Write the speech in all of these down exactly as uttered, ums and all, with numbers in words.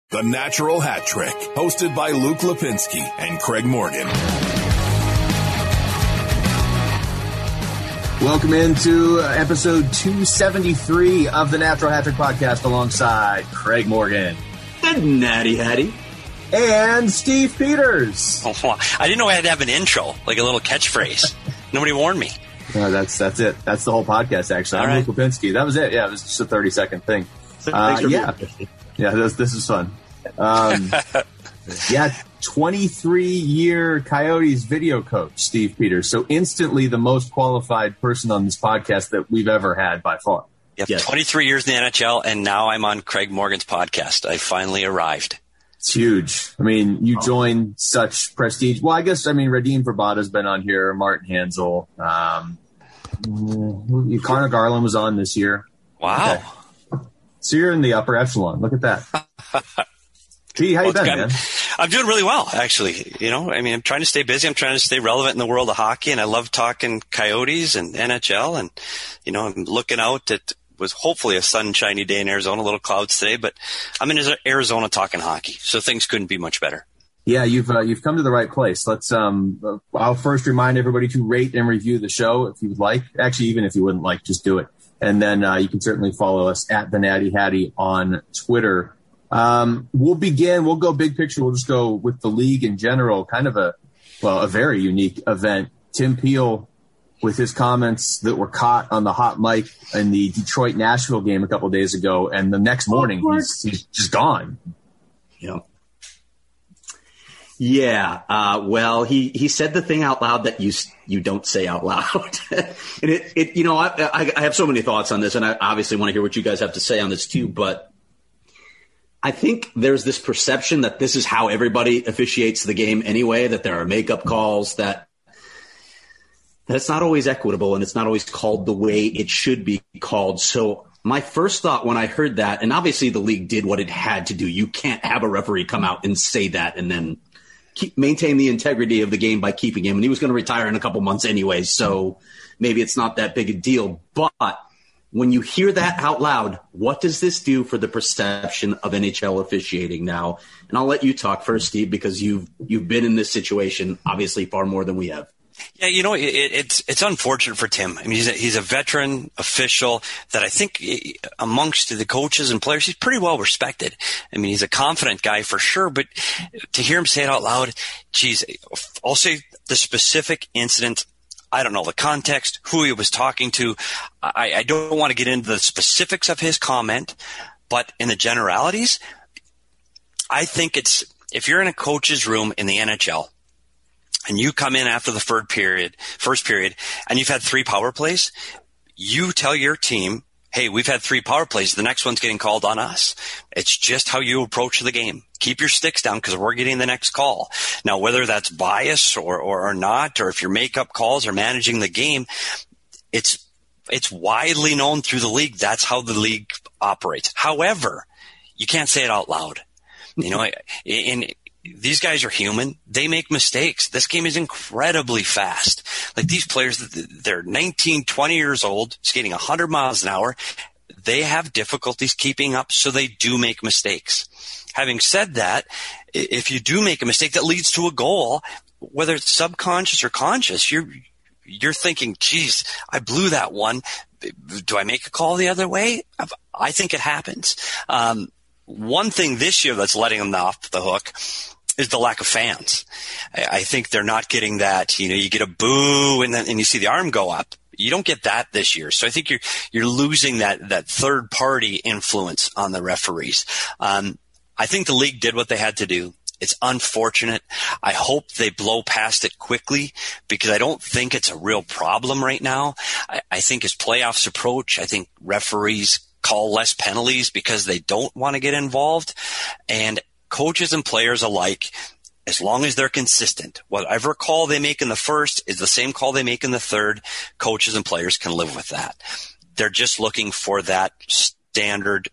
The Natural Hat Trick, hosted by Luke Lipinski and Craig Morgan. Welcome into episode two seventy-three of the Natural Hat Trick podcast alongside Craig Morgan. And Natty Hattie. And Steve Peters. Oh, I didn't know I had to have an intro, like a little catchphrase. Nobody warned me. No, that's that's it. That's the whole podcast, actually. All I'm right. Luke Lipinski. That was it. Yeah, it was just a thirty-second thing. Uh, yeah. Yeah, this, this is fun. Um, yeah, twenty-three-year Coyotes video coach, Steve Peters. So instantly the most qualified person on this podcast that we've ever had by far. Yep, Yes. twenty-three years in the N H L, and now I'm on Craig Morgan's podcast. I finally arrived. It's huge. I mean, you join such prestige. Well, I guess, I mean, Radim Verbata's been on here, Martin Hansel. Um, Connor Garland was on this year. Wow. Okay. So you're in the upper echelon. Look at that. Gee, how you Well, been, I'm, man? I'm doing really well, actually. You know, I mean, I'm trying to stay busy. I'm trying to stay relevant in the world of hockey, and I love talking Coyotes and N H L. And, you know, I'm looking out at was hopefully a sunshiny day in Arizona, a little clouds today, but I'm in Arizona talking hockey, so things couldn't be much better. Yeah, you've uh, you've come to the right place. Let's. Um, uh, I'll first remind everybody to rate and review the show if you would like. Actually, even if you wouldn't like, just do it. And then uh, you can certainly follow us at the Natty Hattie on Twitter. Um, we'll begin. We'll go big picture. We'll just go with the league in general. Kind of a well, a very unique event. Tim Peel, with his comments that were caught on the hot mic in the Detroit-Nashville game a couple of days ago, and the next morning he's, he's just gone. Yeah. Yeah. Uh, well, he, he said the thing out loud that you you don't say out loud. and it, it you know, I, I, I have so many thoughts on this, and I obviously want to hear what you guys have to say on this too, but I think there's this perception that this is how everybody officiates the game anyway, that there are makeup calls, that that's not always equitable, and it's not always called the way it should be called. So my first thought when I heard that, and obviously the league did what it had to do. You can't have a referee come out and say that and then keep, maintain the integrity of the game by keeping him. And he was going to retire in a couple months anyway, so maybe it's not that big a deal. But when you hear that out loud, what does this do for the perception of N H L officiating now? And I'll let you talk first, Steve, because you've you've been in this situation obviously far more than we have. Yeah, you know, it, it's it's unfortunate for Tim. I mean, he's a, he's a veteran official that I think amongst the coaches and players, he's pretty well respected. I mean, he's a confident guy for sure, but to hear him say it out loud, geez, I'll say the specific incident. I don't know the context, who he was talking to. I, I don't want to get into the specifics of his comment, but in the generalities, I think it's if you're in a coach's room in the N H L, and you come in after the third period, first period, and you've had three power plays, you tell your team, hey, we've had three power plays. The next one's getting called on us. It's just how you approach the game. Keep your sticks down because we're getting the next call. Now, whether that's bias or, or, or not, or if your makeup calls are managing the game, it's it's widely known through the league. That's how the league operates. However, you can't say it out loud. You know, in these guys are human. They make mistakes. This game is incredibly fast. Like these players, they're nineteen, twenty years old, skating one hundred miles an hour. They have difficulties keeping up, so they do make mistakes. Having said that, if you do make a mistake that leads to a goal, whether it's subconscious or conscious, you're you're thinking, geez, I blew that one. Do I make a call the other way? I think it happens. Um, one thing this year that's letting them off the hook is the lack of fans. I think they're not getting that, you know, you get a boo and then and you see the arm go up. You don't get that this year. So I think you're you're losing that that third party influence on the referees. Um, I think the league did what they had to do. It's unfortunate. I hope they blow past it quickly because I don't think it's a real problem right now. I, I think as playoffs approach, I think referees call less penalties because they don't want to get involved. And coaches and players alike, as long as they're consistent, whatever call they make in the first is the same call they make in the third, coaches and players can live with that. They're just looking for that standard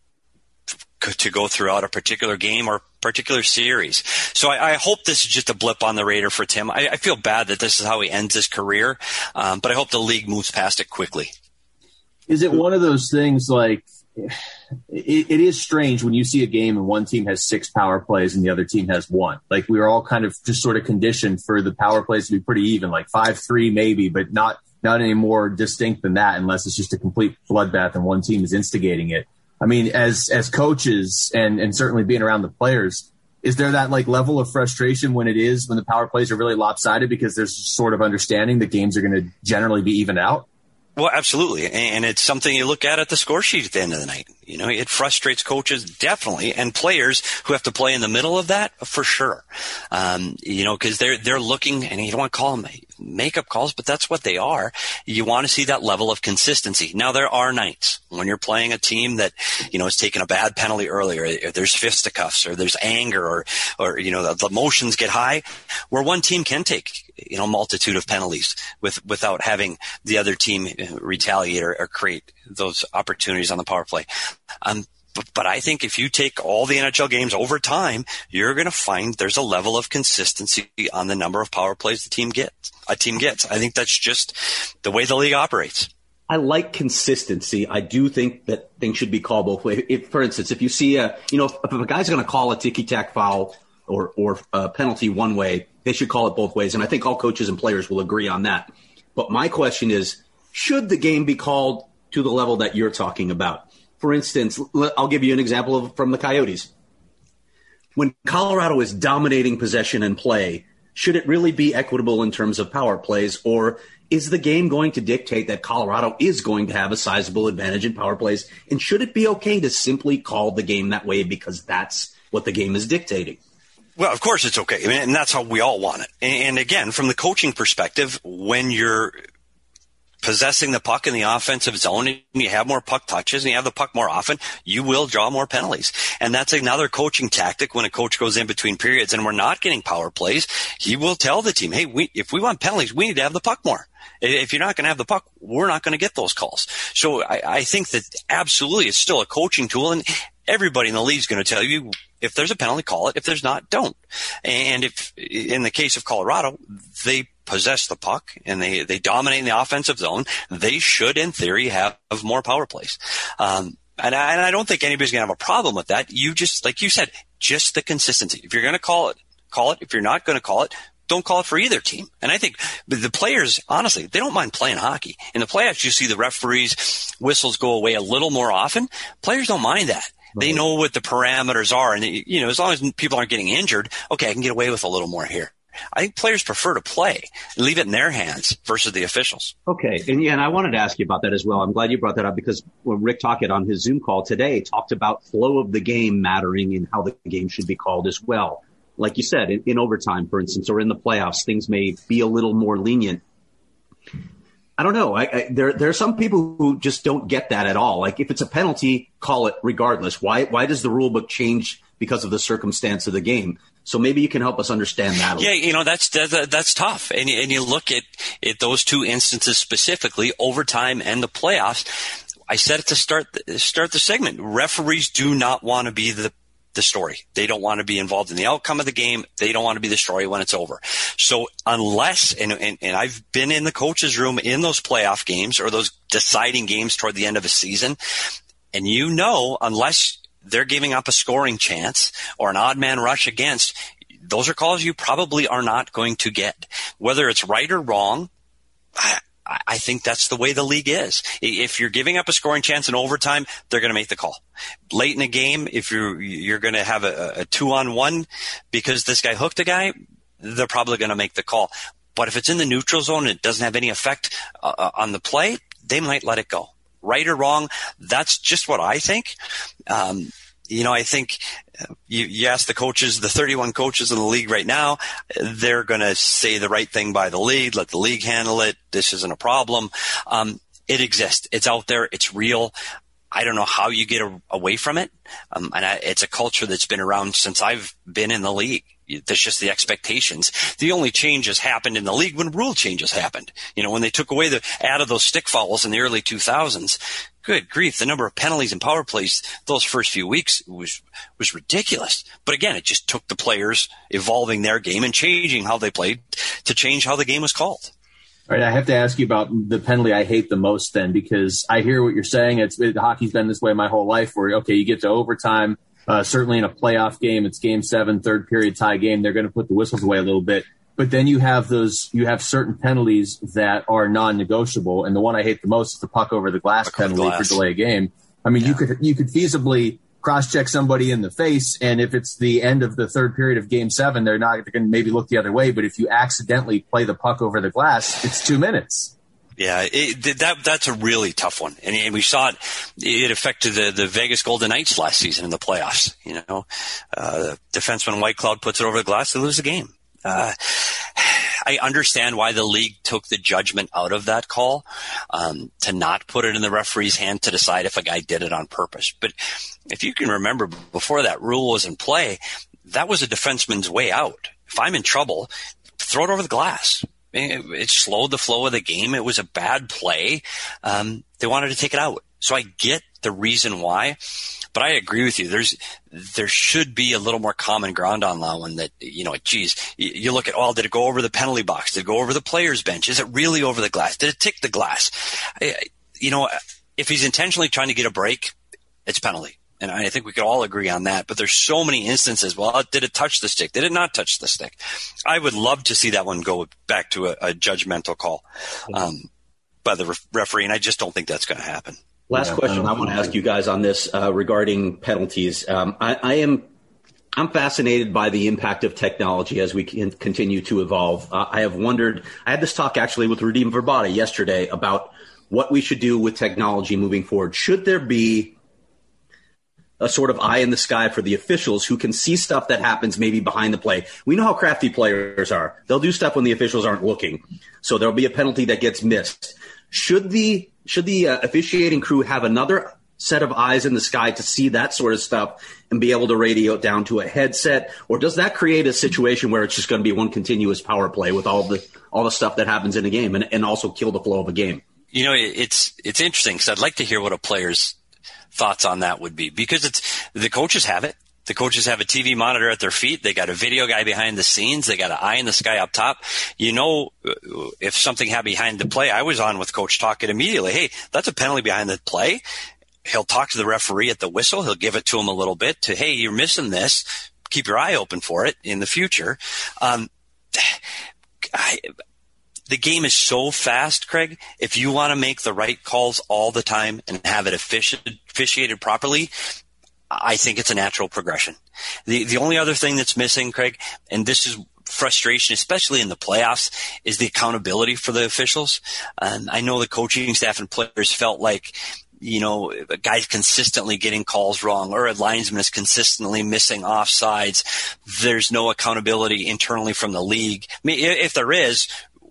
to go throughout a particular game or particular series. So I, I hope this is just a blip on the radar for Tim. I, I feel bad that this is how he ends his career, um, but I hope the league moves past it quickly. Is it one of those things like it, it is strange when you see a game and one team has six power plays and the other team has one. Like, we were all kind of just sort of conditioned for the power plays to be pretty even, like five three maybe, but not not any more distinct than that, unless it's just a complete bloodbath and one team is instigating it. I mean, as as coaches and and certainly being around the players, is there that like level of frustration when it is when the power plays are really lopsided because there's sort of understanding that games are going to generally be even out? Well, absolutely. And it's something you look at at the score sheet at the end of the night. You know, it frustrates coaches definitely, and players who have to play in the middle of that for sure. Um, you know, cause they're, they're looking, and you don't want to call them makeup calls, but that's what they are. You want to see that level of consistency. Now, there are nights when you're playing a team that, you know, has taken a bad penalty earlier, or there's fisticuffs, or there's anger, or, or, you know, the, the emotions get high, where one team can take, you know, multitude of penalties with, without having the other team retaliate or, or create those opportunities on the power play. Um, but, but I think if you take all the N H L games over time, you're going to find there's a level of consistency on the number of power plays the team gets. A team gets. I think that's just the way the league operates. I like consistency. I do think that things should be called both ways. If, for instance, if you see a, you know, if, if a guy's going to call a ticky-tack foul or or a penalty one way, they should call it both ways. And I think all coaches and players will agree on that. But my question is, should the game be called to the level that you're talking about? For instance, I'll give you an example of, from the Coyotes. When Colorado is dominating possession and play, should it really be equitable in terms of power plays, or is the game going to dictate that Colorado is going to have a sizable advantage in power plays? And should it be okay to simply call the game that way because that's what the game is dictating? Well, of course it's okay. I mean, and that's how we all want it. And again, from the coaching perspective, when you're possessing the puck in the offensive zone and you have more puck touches and you have the puck more often, you will draw more penalties. And that's another coaching tactic. When a coach goes in between periods and we're not getting power plays, he will tell the team, hey, we, if we want penalties, we need to have the puck more. If you're not going to have the puck, we're not going to get those calls. So I, I think that absolutely it's still a coaching tool, and everybody in the league is going to tell you, if there's a penalty, call it. If there's not, don't. And if, in the case of Colorado, they possess the puck and they, they dominate in the offensive zone, they should, in theory, have more power plays. Um, and I, and I don't think anybody's going to have a problem with that. You just, like you said, just the consistency. If you're going to call it, call it. If you're not going to call it, don't call it for either team. And I think the players, honestly, they don't mind playing hockey. In the playoffs, you see the referees' whistles go away a little more often. Players don't mind that. They know what the parameters are. And, you know, as long as people aren't getting injured, okay, I can get away with a little more here. I think players prefer to play and leave it in their hands versus the officials. Okay. And yeah, and I wanted to ask you about that as well. I'm glad you brought that up, because when Rick Tocchet on his Zoom call today talked about flow of the game mattering and how the game should be called as well. Like you said, in, in overtime, for instance, or in the playoffs, things may be a little more lenient. I don't know. I, I, there, there are some people who just don't get that at all. Like, if it's a penalty, call it regardless. Why, why does the rule book change because of the circumstance of the game? So maybe you can help us understand that a yeah, little. you know, that's that, that's tough. And, and you look at, at those two instances specifically, overtime and the playoffs. I said it to start the, start the segment. Referees do not want to be the the story. They don't want to be involved in the outcome of the game. They don't want to be the story when it's over. So unless, and, and, and I've been in the coach's room in those playoff games or those deciding games toward the end of a season, and you know, unless they're giving up a scoring chance or an odd man rush against, those are calls you probably are not going to get. Whether it's right or wrong, I, I think that's the way the league is. If you're giving up a scoring chance in overtime, they're going to make the call. Late in a game, if you're you're going to have a, a two-on-one because this guy hooked a guy, they're probably going to make the call. But if it's in the neutral zone and it doesn't have any effect uh, on the play, they might let it go. Right or wrong, that's just what I think. Um, you know, I think you, you ask the coaches, the thirty-one coaches in the league right now, they're going to say the right thing by the league, let the league handle it. This isn't a problem. Um, it exists. It's out there. It's real. I don't know how you get a, away from it. Um, and I, it's a culture that's been around since I've been in the league. There's just the expectations. The only changes happened in the league when rule changes happened. You know, when they took away the, added those stick fouls in the early two thousands, good grief, the number of penalties and power plays those first few weeks was, was ridiculous. But again, it just took the players evolving their game and changing how they played to change how the game was called. All right, I have to ask you about the penalty I hate the most then, because I hear what you're saying. It's it, hockey's been this way my whole life where, okay, you get to overtime. Uh, certainly in a playoff game, it's game seven, third period tie game. They're going to put the whistles away a little bit. But then you have those, you have certain penalties that are non-negotiable. And the one I hate the most is the puck over the glass puck penalty glass. for delay a game. I mean, yeah. you could, you could feasibly cross-check somebody in the face, and if it's the end of the third period of game seven, they're not they're going to maybe look the other way. But if you accidentally play the puck over the glass, it's two minutes. Yeah, it, that that's a really tough one, and, and we saw it. It affected the, the Vegas Golden Knights last season in the playoffs. You know, uh, defenseman White Cloud puts it over the glass, they lose the game. Uh, I understand why the league took the judgment out of that call, um, to not put it in the referee's hand to decide if a guy did it on purpose. But if you can remember, before that rule was in play, that was a defenseman's way out. If I'm in trouble, throw it over the glass. It, it slowed the flow of the game. It was a bad play. Um, they wanted to take it out. So I get the reason why. But I agree with you. There's, there should be a little more common ground on that one that, you know, geez, you, you look at, oh, did it go over the penalty box? Did it go over the player's bench? Is it really over the glass? Did it tick the glass? I, you know, if he's intentionally trying to get a break, it's penalty. And I think we could all agree on that. But there's so many instances. Well, did it touch the stick? Did it not touch the stick? I would love to see that one go back to a, a judgmental call um, by the ref- referee. And I just don't think that's going to happen. Last yeah, question I, I want to ask you guys on this uh, regarding penalties. Um, I, I am I'm fascinated by the impact of technology as we can continue to evolve. Uh, I have wondered. I had this talk actually with Radim Verbata yesterday about what we should do with technology moving forward. Should there be a sort of eye in the sky for the officials who can see stuff that happens maybe behind the play? We know how crafty players are. They'll do stuff when the officials aren't looking. So there'll be a penalty that gets missed. Should the Should the uh, officiating crew have another set of eyes in the sky to see that sort of stuff and be able to radio it down to a headset? Or does that create a situation where it's just going to be one continuous power play with all the all the stuff that happens in a game and, and also kill the flow of a game? You know, it's it's interesting because I'd like to hear what a player's thoughts on that would be, because it's the coaches have it. The coaches have a T V monitor at their feet. They got a video guy behind the scenes. They got an eye in the sky up top. You know, if something happened behind the play, I was on with Coach talking immediately. Hey, that's a penalty behind the play. He'll talk to the referee at the whistle. He'll give it to him a little bit to, hey, you're missing this. Keep your eye open for it in the future. Um, I, the game is so fast, Craig. If you want to make the right calls all the time and have it offici- officiated properly, I think it's a natural progression. The the only other thing that's missing, Craig, and this is frustration, especially in the playoffs, is the accountability for the officials. Um, I know the coaching staff and players felt like, you know, a guy's consistently getting calls wrong or a linesman is consistently missing offsides. There's no accountability internally from the league. I mean, if there is,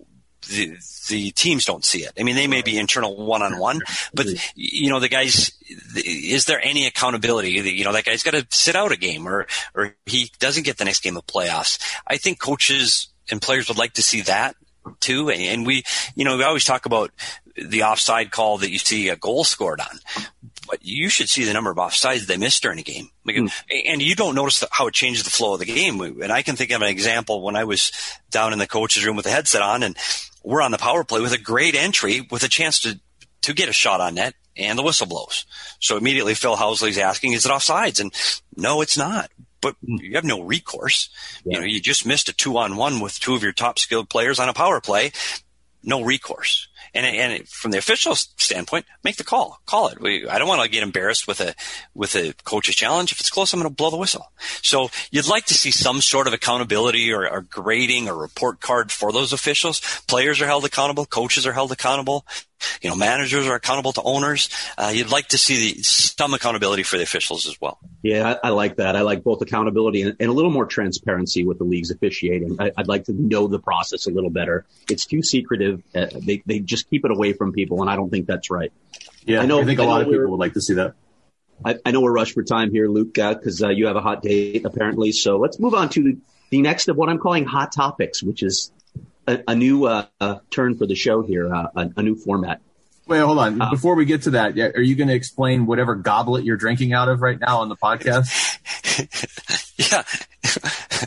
the, the teams don't see it. I mean, they may be internal one-on-one, but, you know, the guys, is there any accountability? You know, that guy's got to sit out a game or, or he doesn't get the next game of playoffs. I think coaches and players would like to see that too. And we, you know, we always talk about the offside call that you see a goal scored on, but you should see the number of offsides they missed during a game. Like, mm. And you don't notice the, how it changes the flow of the game. And I can think of an example when I was down in the coach's room with the headset on and we're on the power play with a great entry with a chance to, to get a shot on net and the whistle blows. So immediately Phil Housley's asking, is it offsides? And no, it's not. But you have no recourse. Yeah. You know, you just missed a two on one with two of your top skilled players on a power play. No recourse. And, and from the official standpoint, make the call. Call it. We, I don't want to get embarrassed with a with a coach's challenge. If it's close, I'm going to blow the whistle. So you'd like to see some sort of accountability or, or grading or report card for those officials. Players are held accountable. Coaches are held accountable. You know, managers are accountable to owners. Uh, you'd like to see the, some accountability for the officials as well. Yeah, I, I like that. I like both accountability and, and a little more transparency with the league's officiating. I, I'd like to know the process a little better. It's too secretive. Uh, they they just keep it away from people, and I don't think that's right. Yeah, I, know, I think a I lot of people would like to see that. I, I know we're rushed for time here, Luke, because uh, uh, you have a hot date apparently. So let's move on to the, the next of what I'm calling hot topics, which is a, a new uh, uh, turn for the show here, uh, a, a new format. Wait, hold on. Uh, Before we get to that, are you going to explain whatever goblet you're drinking out of right now on the podcast? Yeah.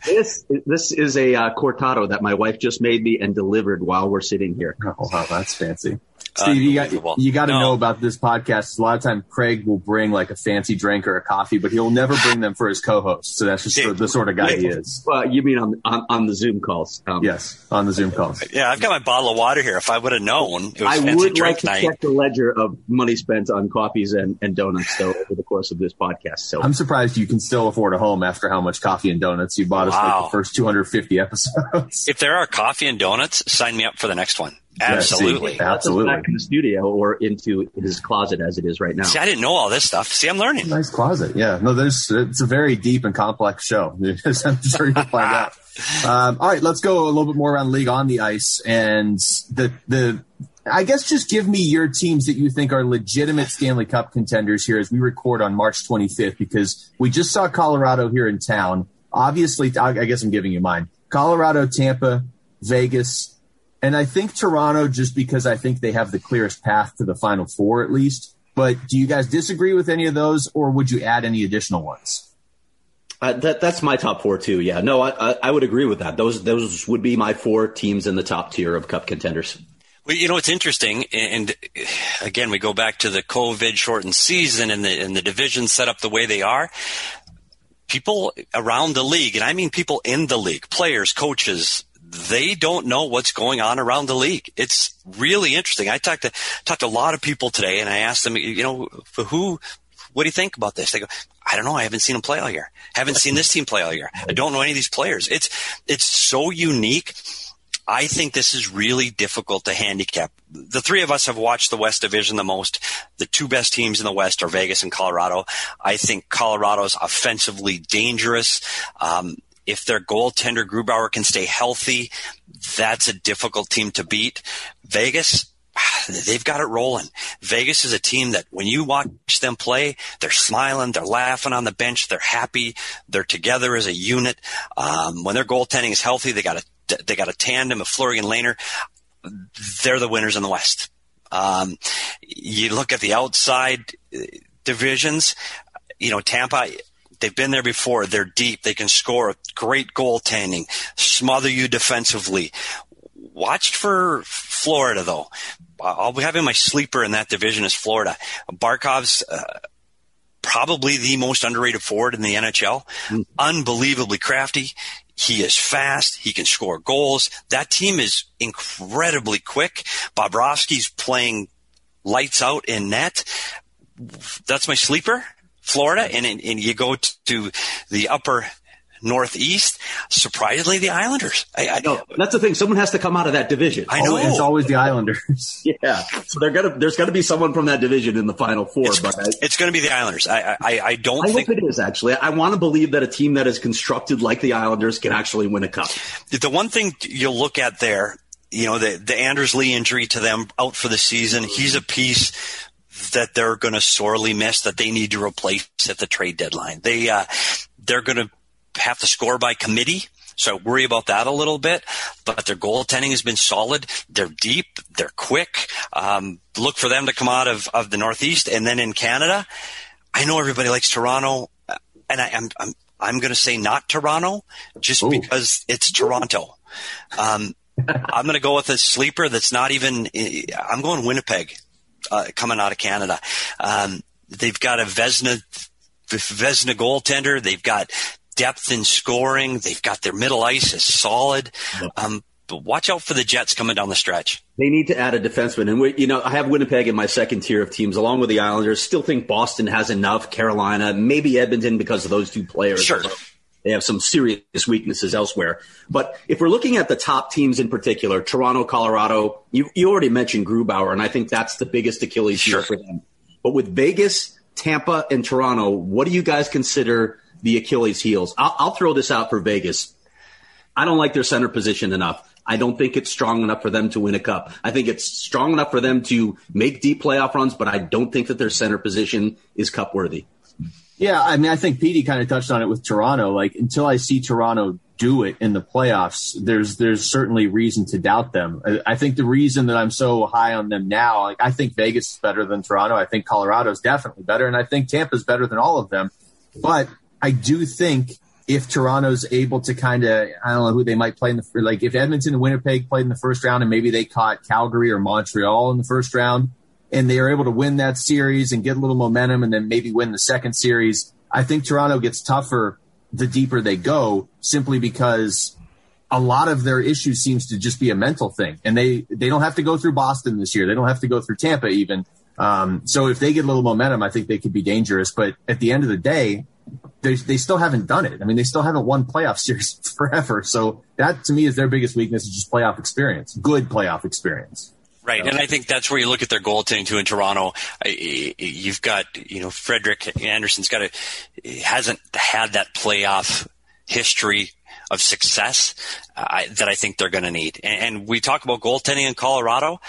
This this is a uh, cortado that my wife just made me and delivered while we're sitting here. Oh, wow, that's fancy. Steve, you got you got to no. know about this podcast. A lot of times, Craig will bring like a fancy drink or a coffee, but he'll never bring them for his co-host. So that's just yeah. the, the sort of guy he is. Well, you mean on on, on the Zoom calls? Um, yes, on the Zoom calls. Yeah, I've got my bottle of water here. If I would have known, it was I fancy would drink like to night. check the ledger of money spent on coffees and, and donuts though over the course of this podcast. So I'm surprised you can still afford a home after how much coffee and donuts you bought us wow. like the first two hundred fifty episodes. If there are coffee and donuts, sign me up for the next one. Absolutely. Yeah, see, absolutely. Back in the studio or into his closet as it is right now. See, I didn't know all this stuff. See, I'm learning. Nice closet. Yeah. No, there's, it's a very deep and complex show. I'm sure you'll find out. Um, all right, let's go a little bit more around the league on the ice. And the, the, I guess just give me your teams that you think are legitimate Stanley Cup contenders here as we record on March twenty-fifth, because we just saw Colorado here in town. Obviously, I guess I'm giving you mine. Colorado, Tampa, Vegas, and I think Toronto, just because I think they have the clearest path to the Final Four at least. But do you guys disagree with any of those, or would you add any additional ones? Uh, that, that's my top four too. Yeah, no, I, I, I would agree with that. Those those would be my four teams in the top tier of Cup contenders. Well, you know, it's interesting, and again, we go back to the COVID-shortened season and the and the divisions set up the way they are. People around the league, and I mean people in the league, players, coaches, they don't know what's going on around the league. It's really interesting. I talked to talked to a lot of people today, and I asked them, you know, for who, what do you think about this? They go, I don't know. I haven't seen them play all year. Haven't seen this team play all year. I don't know any of these players. It's it's so unique. I think this is really difficult to handicap. The three of us have watched the West Division the most. The two best teams in the West are Vegas and Colorado. I think Colorado's offensively dangerous. Um, if their goaltender Grubauer can stay healthy, that's a difficult team to beat. Vegas, they've got it rolling. Vegas is a team that when you watch them play, they're smiling, they're laughing on the bench, they're happy, they're together as a unit. Um, when their goaltending is healthy, they got a They got a tandem of Fleury and Lehner. They're the winners in the West. Um, you look at the outside divisions, you know, Tampa, they've been there before. They're deep. They can score. Great goaltending. Smother you defensively. Watch for Florida, though. I'll be having my sleeper in that division is Florida. Barkov's uh, probably the most underrated forward in the N H L. Mm. Unbelievably crafty. He is fast. He can score goals. That team is incredibly quick. Bobrovsky's playing lights out in net. That's my sleeper, Florida. And, and you go to the upper Northeast, surprisingly, the Islanders. I, I know that's the thing. Someone has to come out of that division. I know it's always the Islanders. Yeah, so they're gonna. There's got to be someone from that division in the Final Four. It's, but I, it's going to be the Islanders. I, I, I don't I think hope it is. Actually, I want to believe that a team that is constructed like the Islanders can actually win a cup. The one thing you'll look at there, you know, the the Anders Lee injury to them out for the season. He's a piece that they're going to sorely miss. That they need to replace at the trade deadline. They uh, they're going to have to score by committee, so I worry about that a little bit. But their goaltending has been solid. They're deep. They're quick. Um, look for them to come out of, of the Northeast. And then in Canada, I know everybody likes Toronto, and I, I'm I'm I'm going to say not Toronto, just Ooh. because it's Toronto. Um, I'm going to go with a sleeper that's not even. I'm going Winnipeg, uh, coming out of Canada. Um, they've got a Vezina Vezina goaltender. They've got depth in scoring. They've got their middle ice is solid. Um, but watch out for the Jets coming down the stretch. They need to add a defenseman. And, we, you know, I have Winnipeg in my second tier of teams along with the Islanders. Still think Boston has enough. Carolina, maybe Edmonton because of those two players. Sure. They have some serious weaknesses elsewhere. But if we're looking at the top teams in particular, Toronto, Colorado, you, you already mentioned Grubauer, and I think that's the biggest Achilles heel sure. for them. But with Vegas, Tampa, and Toronto, what do you guys consider the Achilles heels? I'll, I'll throw this out for Vegas. I don't like their center position enough. I don't think it's strong enough for them to win a cup. I think it's strong enough for them to make deep playoff runs, but I don't think that their center position is cup worthy. Yeah, I mean, I think Petey kind of touched on it with Toronto. Like, until I see Toronto do it in the playoffs, there's there's certainly reason to doubt them. I, I think the reason that I'm so high on them now, like, I think Vegas is better than Toronto. I think Colorado is definitely better, and I think Tampa's better than all of them. But I do think if Toronto's able to kind of, I don't know who they might play in the, like if Edmonton and Winnipeg played in the first round and maybe they caught Calgary or Montreal in the first round and they are able to win that series and get a little momentum and then maybe win the second series, I think Toronto gets tougher the deeper they go, simply because a lot of their issues seems to just be a mental thing. And they, they don't have to go through Boston this year. They don't have to go through Tampa even. Um, so if they get a little momentum, I think they could be dangerous. But at the end of the day, they, they still haven't done it. I mean, they still haven't won playoff series forever. So that to me is their biggest weakness, is just playoff experience, good playoff experience. Right, and I think that's where you look at their goaltending too in Toronto. You've got, you know, Frederik Andersen's got a hasn't had that playoff history of success uh, that I think they're going to need. And, and we talk about goaltending in Colorado.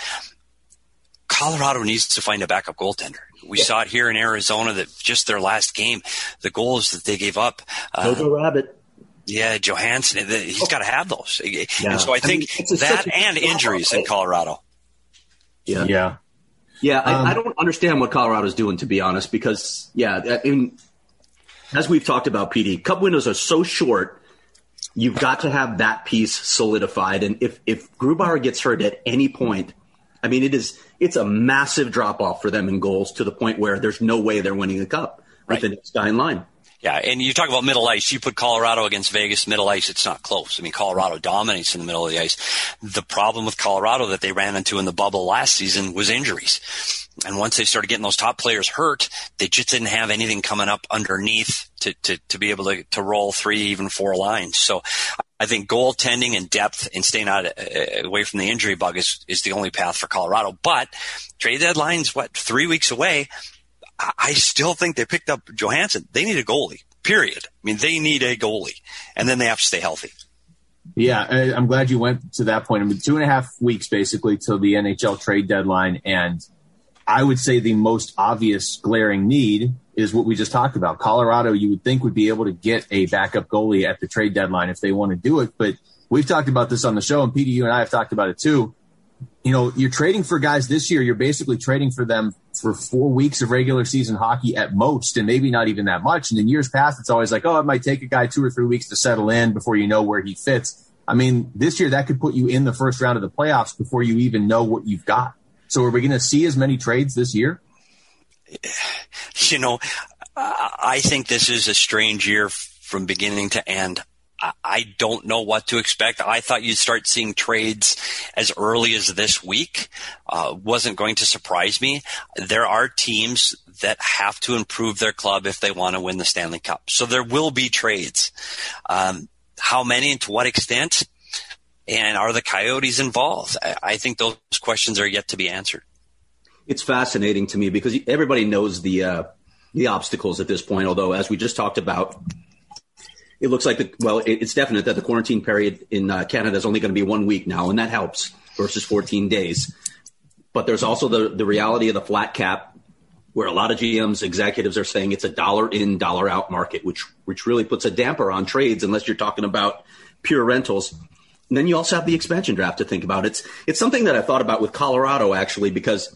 Colorado needs to find a backup goaltender. We yeah. saw it here in Arizona that just their last game, the goals that they gave up. Uh, Jojo Rabbit. Yeah, Johansson. He's oh. got to have those. Yeah. And so I think I mean, that and injuries right? in Colorado. Yeah. Yeah. Yeah. I, um, I don't understand what Colorado's doing, to be honest, because, yeah, I mean, as we've talked about, P D, cup windows are so short. You've got to have that piece solidified. And if, if Grubauer gets hurt at any point, I mean, it is, it's a massive drop off for them in goals, to the point where there's no way they're winning the cup right. with the next guy in line. Yeah, and you talk about middle ice. You put Colorado against Vegas middle ice, it's not close. I mean, Colorado dominates in the middle of the ice. The problem with Colorado that they ran into in the bubble last season was injuries. And once they started getting those top players hurt, they just didn't have anything coming up underneath to, to, to be able to, to roll three, even four lines. So I think goaltending and depth and staying out uh, away from the injury bug is, is the only path for Colorado. But trade deadline's, what, three weeks away? I still think they picked up Johansson. They need a goalie, period. I mean, they need a goalie, and then they have to stay healthy. Yeah, I'm glad you went to that point. I mean, two and a half weeks basically till the N H L trade deadline, and I would say the most obvious glaring need is what we just talked about. Colorado, you would think, would be able to get a backup goalie at the trade deadline if they want to do it, but we've talked about this on the show, and P D, you and I have talked about it too. You know, you're trading for guys this year. You're basically trading for them for four weeks of regular season hockey at most, and maybe not even that much. And in years past, it's always like, oh, it might take a guy two or three weeks to settle in before you know where he fits. I mean, this year that could put you in the first round of the playoffs before you even know what you've got. So are we going to see as many trades this year? You know, I think this is a strange year from beginning to end. I don't know what to expect. I thought you'd start seeing trades as early as this week. Uh, wasn't going to surprise me. There are teams that have to improve their club if they want to win the Stanley Cup. So there will be trades. Um, how many and to what extent? And are the Coyotes involved? I, I think those questions are yet to be answered. It's fascinating to me because everybody knows the uh, the obstacles at this point, although as we just talked about, it looks like, the, well, it's definite that the quarantine period in uh, Canada is only going to be one week now, and that helps versus fourteen days. But there's also the, the reality of the flat cap, where a lot of G Ms, executives are saying it's a dollar in, dollar out market, which which really puts a damper on trades unless you're talking about pure rentals. And then you also have the expansion draft to think about. It's it's something that I thought about with Colorado, actually, because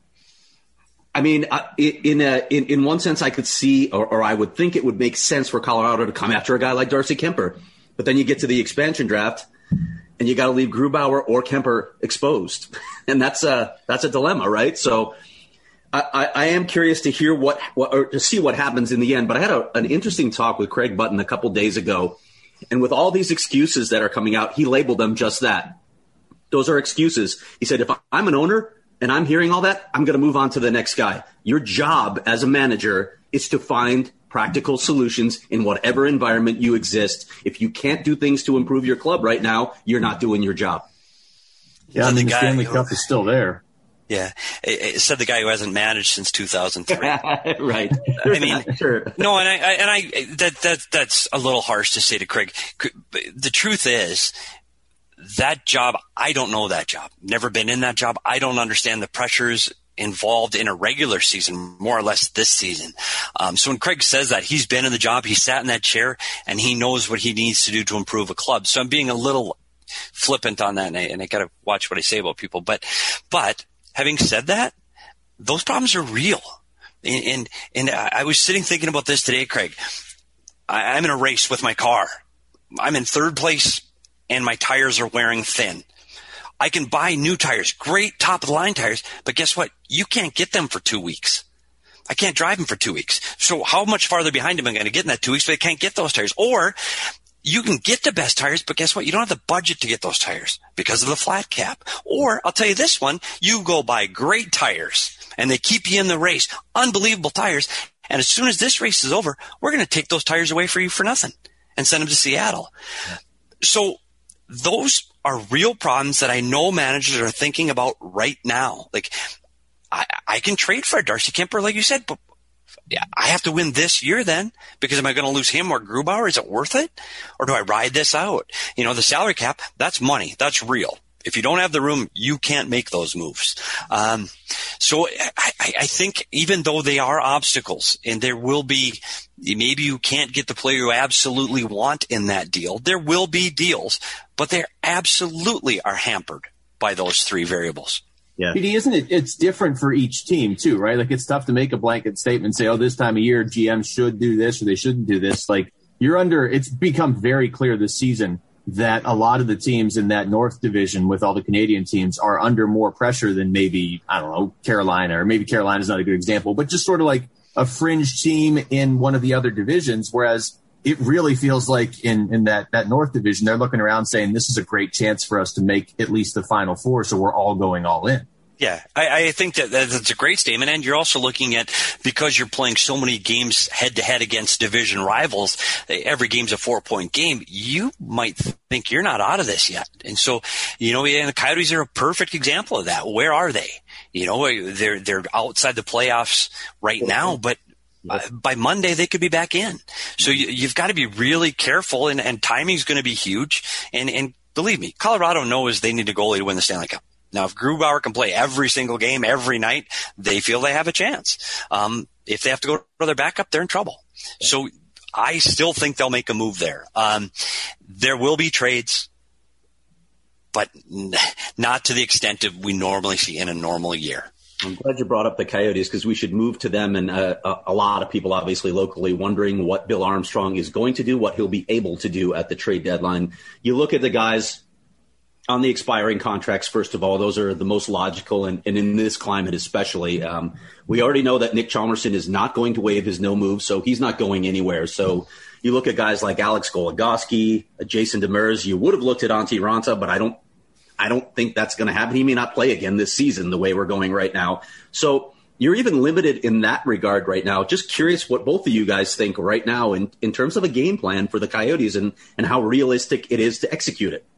I mean, in a, in in one sense, I could see, or, or I would think it would make sense for Colorado to come after a guy like Darcy Kemper. But then you get to the expansion draft, and you got to leave Grubauer or Kemper exposed, and that's a that's a dilemma, right? So, I, I, I am curious to hear what, what or to see what happens in the end. But I had a, an interesting talk with Craig Button a couple days ago, and with all these excuses that are coming out, he labeled them just that. Those are excuses. He said, if I'm an owner and I'm hearing all that, I'm going to move on to the next guy. Your job as a manager is to find practical solutions in whatever environment you exist. If you can't do things to improve your club right now, you're not doing your job. Yeah, I mean, the, the Stanley Cup is still there. Yeah, it, it said the guy who hasn't managed since two thousand three. Right. I mean, sure. no, and I, I and I that that that's a little harsh to say to Craig. The truth is, that job, I don't know that job. Never been in that job. I don't understand the pressures involved in a regular season, more or less this season. Um, so when Craig says that, he's been in the job, he sat in that chair, and he knows what he needs to do to improve a club. So I'm being a little flippant on that, and I, and I got to watch what I say about people. But, but having said that, those problems are real. And, and, and I was sitting thinking about this today, Craig. I, I'm in a race with my car. I'm in third place and my tires are wearing thin. I can buy new tires, great top of the line tires, but guess what? You can't get them for two weeks. I can't drive them for two weeks. So how much farther behind am I going to get in that two weeks? But I can't get those tires. Or you can get the best tires, but guess what? You don't have the budget to get those tires because of the flat cap. Or I'll tell you this one, you go buy great tires and they keep you in the race, unbelievable tires. And as soon as this race is over, we're going to take those tires away for you for nothing and send them to Seattle. So those are real problems that I know managers are thinking about right now. Like, I, I can trade for Darcy Kuemper, like you said, but yeah, I have to win this year then, because am I going to lose him or Grubauer? Is it worth it? Or do I ride this out? You know, the salary cap, that's money. That's real. If you don't have the room, you can't make those moves. Um, so I, I think even though they are obstacles and there will be, maybe you can't get the player you absolutely want in that deal. There will be deals, but they absolutely are hampered by those three variables. Yeah. P D, isn't it? It's different for each team too, right? Like, it's tough to make a blanket statement and say, oh, this time of year G Ms should do this or they shouldn't do this. Like, you're under, it's become very clear this season that a lot of the teams in that North division with all the Canadian teams are under more pressure than maybe, I don't know, Carolina, or maybe Carolina's not a good example, but just sort of like a fringe team in one of the other divisions. Whereas it really feels like in, in that, that North division, they're looking around saying this is a great chance for us to make at least the Final Four. So we're all going all in. Yeah, I, I think that that's a great statement. And you're also looking at, because you're playing so many games head to head against division rivals, every game's a four point game. You might think you're not out of this yet. And so, you know, and the Coyotes are a perfect example of that. Where are they? You know, they're, they're outside the playoffs right now, but uh, by Monday they could be back in. So you, you've got to be really careful, and, and timing's going to be huge. And, and believe me, Colorado knows they need a goalie to win the Stanley Cup. Now, if Grubauer can play every single game, every night, they feel they have a chance. Um, if they have to go to their backup, they're in trouble. So I still think they'll make a move there. Um, there will be trades, but n- not to the extent that we normally see in a normal year. I'm glad you brought up the Coyotes, because we should move to them. And uh, a, a lot of people, obviously locally, wondering what Bill Armstrong is going to do, what he'll be able to do at the trade deadline. You look at the guys on the expiring contracts, first of all, those are the most logical, and, and in this climate especially. Um, we already know that Nick Chalmerson is not going to waive his no move, so he's not going anywhere. So you look at guys like Alex Goligoski, Jason Demers. You would have looked at Antti Raanta, but I don't I don't think that's going to happen. He may not play again this season the way we're going right now. So you're even limited in that regard right now. Just curious what both of you guys think right now in, in terms of a game plan for the Coyotes, and, and how realistic it is to execute it.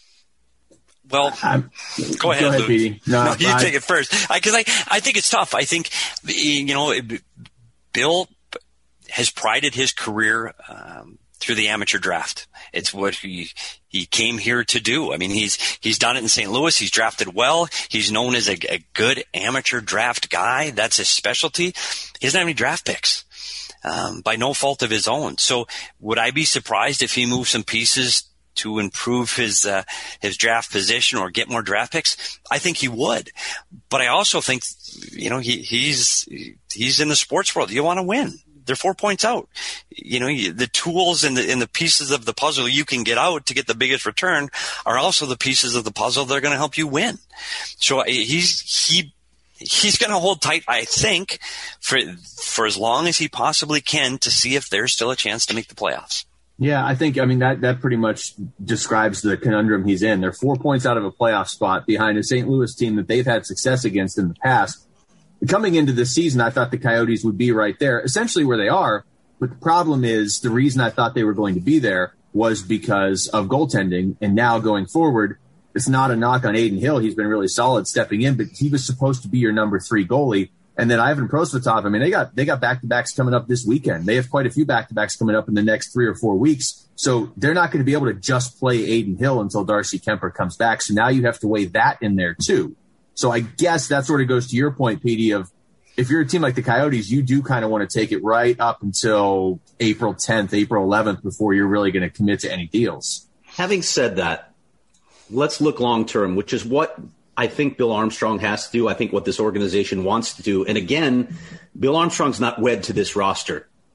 Well, I'm, go ahead, go ahead, Luke. Petey. No, no, you I, take it first. Because I, I, I think it's tough. I think, you know, Bill has prided his career um, through the amateur draft. It's what he he came here to do. I mean, he's he's done it in Saint Louis. He's drafted well. He's known as a, a good amateur draft guy. That's his specialty. He doesn't have any draft picks um, by no fault of his own. So would I be surprised if he moved some pieces to improve his uh, his draft position or get more draft picks? I think he would. But I also think, you know, he he's he's in the sports world. You want to win. They're four points out. You know, the tools and the, and the pieces of the puzzle you can get out to get the biggest return are also the pieces of the puzzle that are going to help you win. So he's, he, he's going to hold tight, I think, for, for as long as he possibly can to see if there's still a chance to make the playoffs. Yeah, I think, I mean, that, that pretty much describes the conundrum he's in. They're four points out of a playoff spot behind a Saint Louis team that they've had success against in the past. Coming into this season, I thought the Coyotes would be right there, essentially where they are. But the problem is, the reason I thought they were going to be there was because of goaltending. And now going forward, it's not a knock on Adin Hill. He's been really solid stepping in, but he was supposed to be your number three goalie. And then Ivan Prosvetov, I mean, they got they got back-to-backs coming up this weekend. They have quite a few back-to-backs coming up in the next three or four weeks. So they're not going to be able to just play Adin Hill until Darcy Kuemper comes back. So now you have to weigh that in there too. So I guess that sort of goes to your point, Petey, of if you're a team like the Coyotes, you do kind of want to take it right up until April tenth, April eleventh before you're really going to commit to any deals. Having said that, let's look long-term, which is what I think Bill Armstrong has to do. I think what this organization wants to do. And again, Bill Armstrong's not wed to this roster.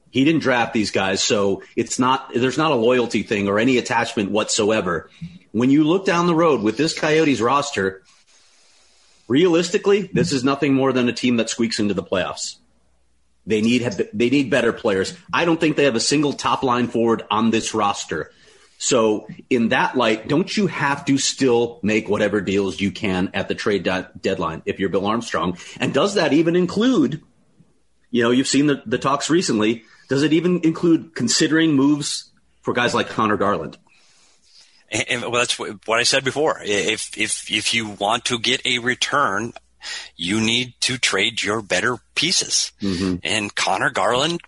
He didn't draft these guys, so it's not there's not a loyalty thing or any attachment whatsoever. When you look down the road with this Coyotes roster, realistically, this is nothing more than a team that squeaks into the playoffs. They need they need better players. I don't think they have a single top line forward on this roster. So in that light, don't you have to still make whatever deals you can at the trade de- deadline if you're Bill Armstrong? And does that even include, you know, you've seen the, the talks recently, does it even include considering moves for guys like Connor Garland? And, well, that's what I said before. If if if you want to get a return, you need to trade your better pieces. Mm-hmm. And Connor Garland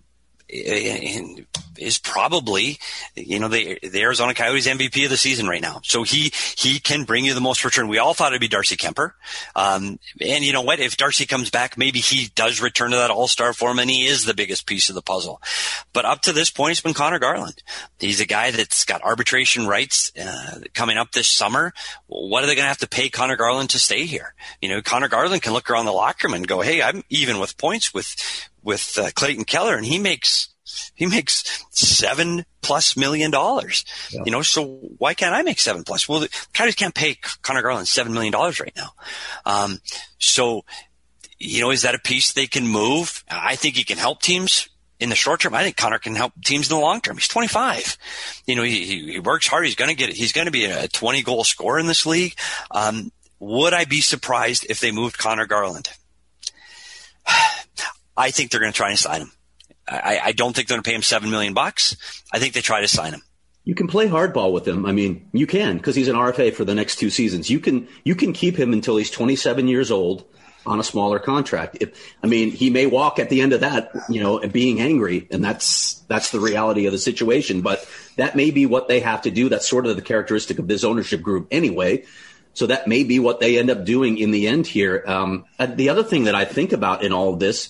is probably, you know, the, the Arizona Coyotes M V P of the season right now. So he, he can bring you the most return. We all thought it'd be Darcy Kemper. Um, and you know what? If Darcy comes back, maybe he does return to that all-star form and he is the biggest piece of the puzzle. But up to this point, it's been Connor Garland. He's a guy that's got arbitration rights, uh, coming up this summer. What are they going to have to pay Connor Garland to stay here? You know, Connor Garland can look around the locker room and go, hey, I'm even with points with, with uh, Clayton Keller, and he makes he makes seven plus million dollars. Yeah. You know, so why can't I make seven plus? Well, the Coyotes can't pay Connor Garland seven million dollars right now. Um, so, you know, is that a piece they can move? I think he can help teams in the short term. I think Connor can help teams in the long term. He's twenty-five. You know, he, he works hard. He's going to get. He's going to be a twenty goal scorer in this league. Um, would I be surprised if they moved Connor Garland? I think they're going to try and sign him. I, I don't think they're going to pay him seven million bucks. I think they try to sign him. You can play hardball with him. I mean, you can, because he's an R F A for the next two seasons. You can you can keep him until he's twenty-seven years old on a smaller contract. If, I mean, he may walk at the end of that, you know, being angry, and that's that's the reality of the situation. But that may be what they have to do. That's sort of the characteristic of this ownership group anyway. So that may be what they end up doing in the end here. Um, the other thing that I think about in all of this,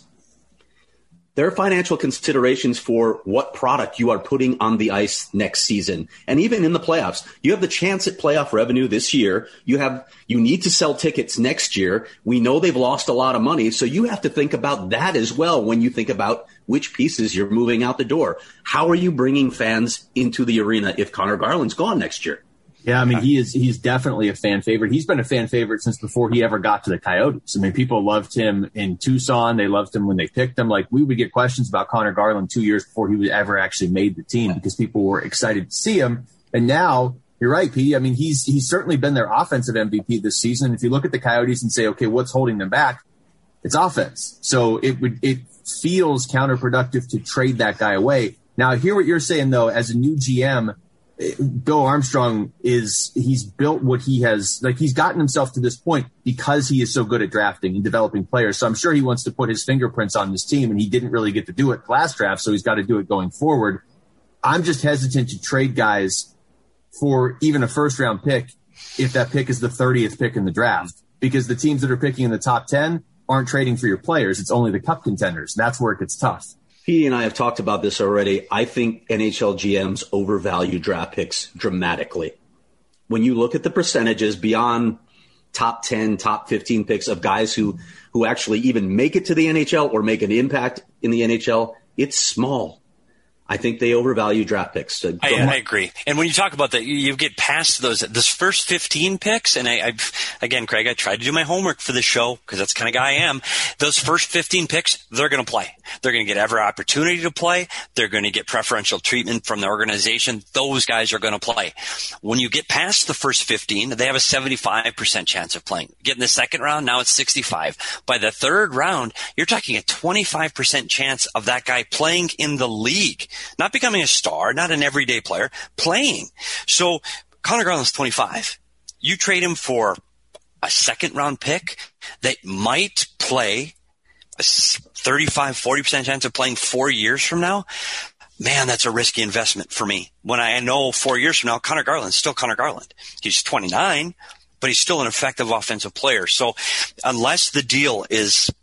there are financial considerations for what product you are putting on the ice next season. And even in the playoffs, you have the chance at playoff revenue this year. You have, you need to sell tickets next year. We know they've lost a lot of money. So you have to think about that as well when you think about which pieces you're moving out the door. How are you bringing fans into the arena if Connor Garland's gone next year? Yeah, I mean, he is, he's definitely a fan favorite. He's been a fan favorite since before he ever got to the Coyotes. I mean, people loved him in Tucson. They loved him when they picked him. Like, we would get questions about Connor Garland two years before he was ever actually made the team because people were excited to see him. And now, you're right, Pete. I mean, he's, he's certainly been their offensive M V P this season. If you look at the Coyotes and say, okay, what's holding them back? It's offense. So it would, it feels counterproductive to trade that guy away. Now, I hear what you're saying, though, as a new G M, Bill Armstrong is, he's built what he has, like he's gotten himself to this point because he is so good at drafting and developing players. So I'm sure he wants to put his fingerprints on this team, and he didn't really get to do it last draft. So he's got to do it going forward. I'm just hesitant to trade guys for even a first round pick if that pick is the thirtieth pick in the draft, because the teams that are picking in the top ten aren't trading for your players. It's only the cup contenders. That's where it gets tough. Petey and I have talked about this already. I think N H L G Ms overvalue draft picks dramatically. When you look at the percentages beyond top ten, top fifteen picks of guys who, who actually even make it to the N H L or make an impact in the N H L, it's small. I think they overvalue draft picks. So I, I agree. And when you talk about that, you, you get past those, those first fifteen picks. And I, I've, again, Craig, I tried to do my homework for this show because that's the kind of guy I am. Those first fifteen picks, they're going to play. They're going to get every opportunity to play. They're going to get preferential treatment from the organization. Those guys are going to play. When you get past the first fifteen, they have a seventy-five percent chance of playing. Get in the second round, now it's sixty-five. By the third round, you're talking a twenty-five percent chance of that guy playing in the league. Not becoming a star, not an everyday player, playing. So Connor Garland's twenty-five. You trade him for a second round pick that might play a thirty-five, forty percent chance of playing four years from now. Man, that's a risky investment for me. When I know four years from now, Connor Garland's still Connor Garland. He's twenty-nine, but he's still an effective offensive player. So unless the deal is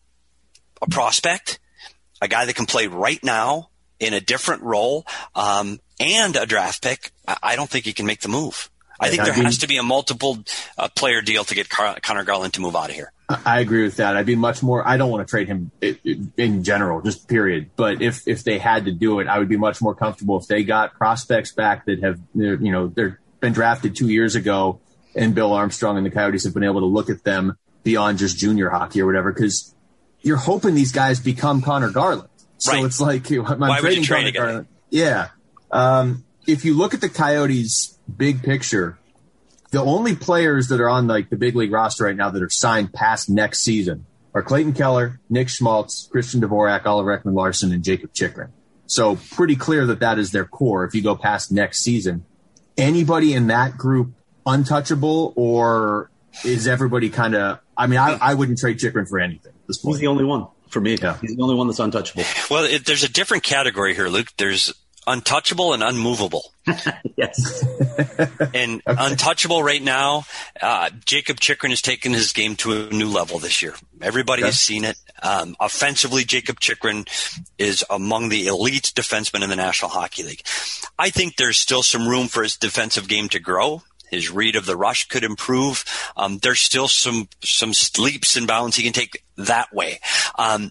a prospect, a guy that can play right now in a different role, um, and a draft pick, I don't think he can make the move. I think there has to be a multiple uh, player deal to get Car- Connor Garland to move out of here. I agree with that. I'd be much more, I don't want to trade him in general, just period. But if, if they had to do it, I would be much more comfortable if they got prospects back that have, you know, they've been drafted two years ago and Bill Armstrong and the Coyotes have been able to look at them beyond just junior hockey or whatever. Cause you're hoping these guys become Connor Garland. So right. It's like, I'm Why would you trade Connor again? Garland. Yeah. Um, if you look at the Coyotes big picture, the only players that are on like the big league roster right now that are signed past next season are Clayton Keller, Nick Schmaltz, Christian Dvorak, Oliver Ekman-Larsson, and Jacob Chychrun. So pretty clear that that is their core if you go past next season. Anybody in that group untouchable, or is everybody kind of – I mean, I, I wouldn't trade Chychrun for anything at this point. He's the only one for me. Yeah. He's the only one that's untouchable. Well, it, there's a different category here, Luke. There's – untouchable and unmovable. Yes. And okay. Untouchable right now, uh, Jacob Chychrun has taken his game to a new level this year. Everybody okay. has seen it. Um, offensively, Jacob Chychrun is among the elite defensemen in the National Hockey League. I think there's still some room for his defensive game to grow. His read of the rush could improve. Um, there's still some some leaps and bounds he can take that way. Um,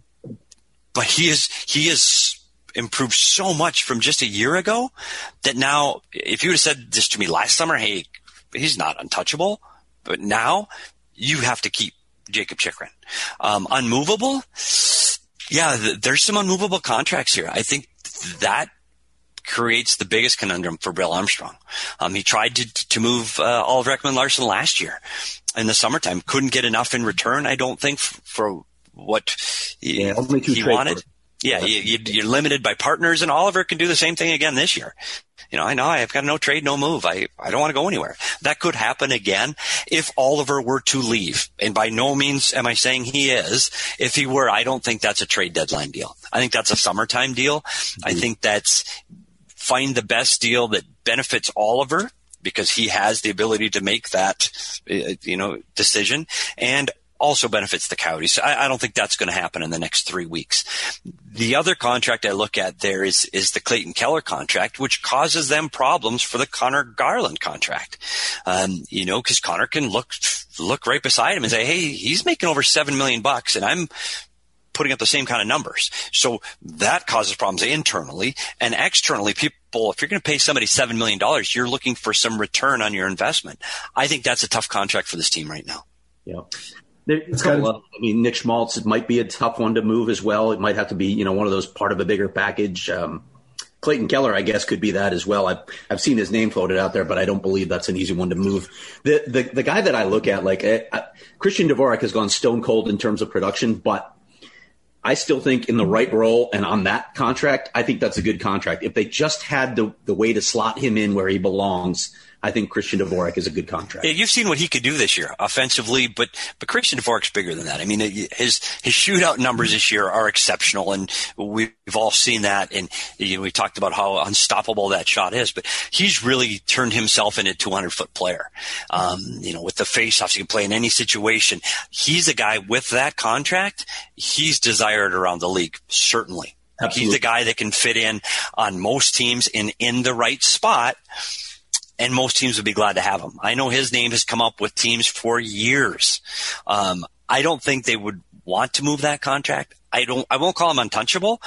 but he is he is improved so much from just a year ago that now, if you would have said this to me last summer, hey, he's not untouchable, but now you have to keep Jacob Chychrun. Um, unmovable, yeah, th- there's some unmovable contracts here. I think that creates the biggest conundrum for Bill Armstrong. Um, he tried to to move uh, Oliver Ekman-Larsson last year in the summertime, couldn't get enough in return, I don't think, f- for what he, yeah, only two he wanted. Yeah, you, you, you're limited by partners, and Oliver can do the same thing again this year. You know, I know I've got no trade, no move. I, I don't want to go anywhere. That could happen again if Oliver were to leave. And by no means am I saying he is. If he were, I don't think that's a trade deadline deal. I think that's a summertime deal. Mm-hmm. I think that's find the best deal that benefits Oliver because he has the ability to make that, you know, decision, and also benefits the Coyotes. I, I don't think that's going to happen in the next three weeks. The other contract I look at there is is the Clayton Keller contract, which causes them problems for the Connor Garland contract. Um, you know, because Connor can look look right beside him and say, "Hey, he's making over seven million bucks, and I'm putting up the same kind of numbers." So that causes problems internally and externally. People, if you're going to pay somebody seven million dollars, you're looking for some return on your investment. I think that's a tough contract for this team right now. Yeah. There's a couple of, I mean, Nick Schmaltz, it might be a tough one to move as well. It might have to be, you know, one of those part of a bigger package. Um, Clayton Keller, I guess, could be that as well. I've, I've seen his name floated out there, but I don't believe that's an easy one to move. The the, the guy that I look at, like uh, Christian Dvorak has gone stone cold in terms of production, but I still think in the right role and on that contract, I think that's a good contract. If they just had the, the way to slot him in where he belongs, I think Christian Dvorak is a good contract. Yeah, you've seen what he could do this year offensively, but but Christian Dvorak's bigger than that. I mean, his his shootout numbers this year are exceptional, and we've all seen that. And you know, we talked about how unstoppable that shot is, but he's really turned himself into a two hundred foot player. Um, you know, with the faceoffs, he can play in any situation. He's a guy with that contract. He's desired around the league, certainly. Absolutely. He's the guy that can fit in on most teams in in the right spot. And most teams would be glad to have him. I know his name has come up with teams for years. Um, I don't think they would want to move that contract. I don't. I won't call him untouchable,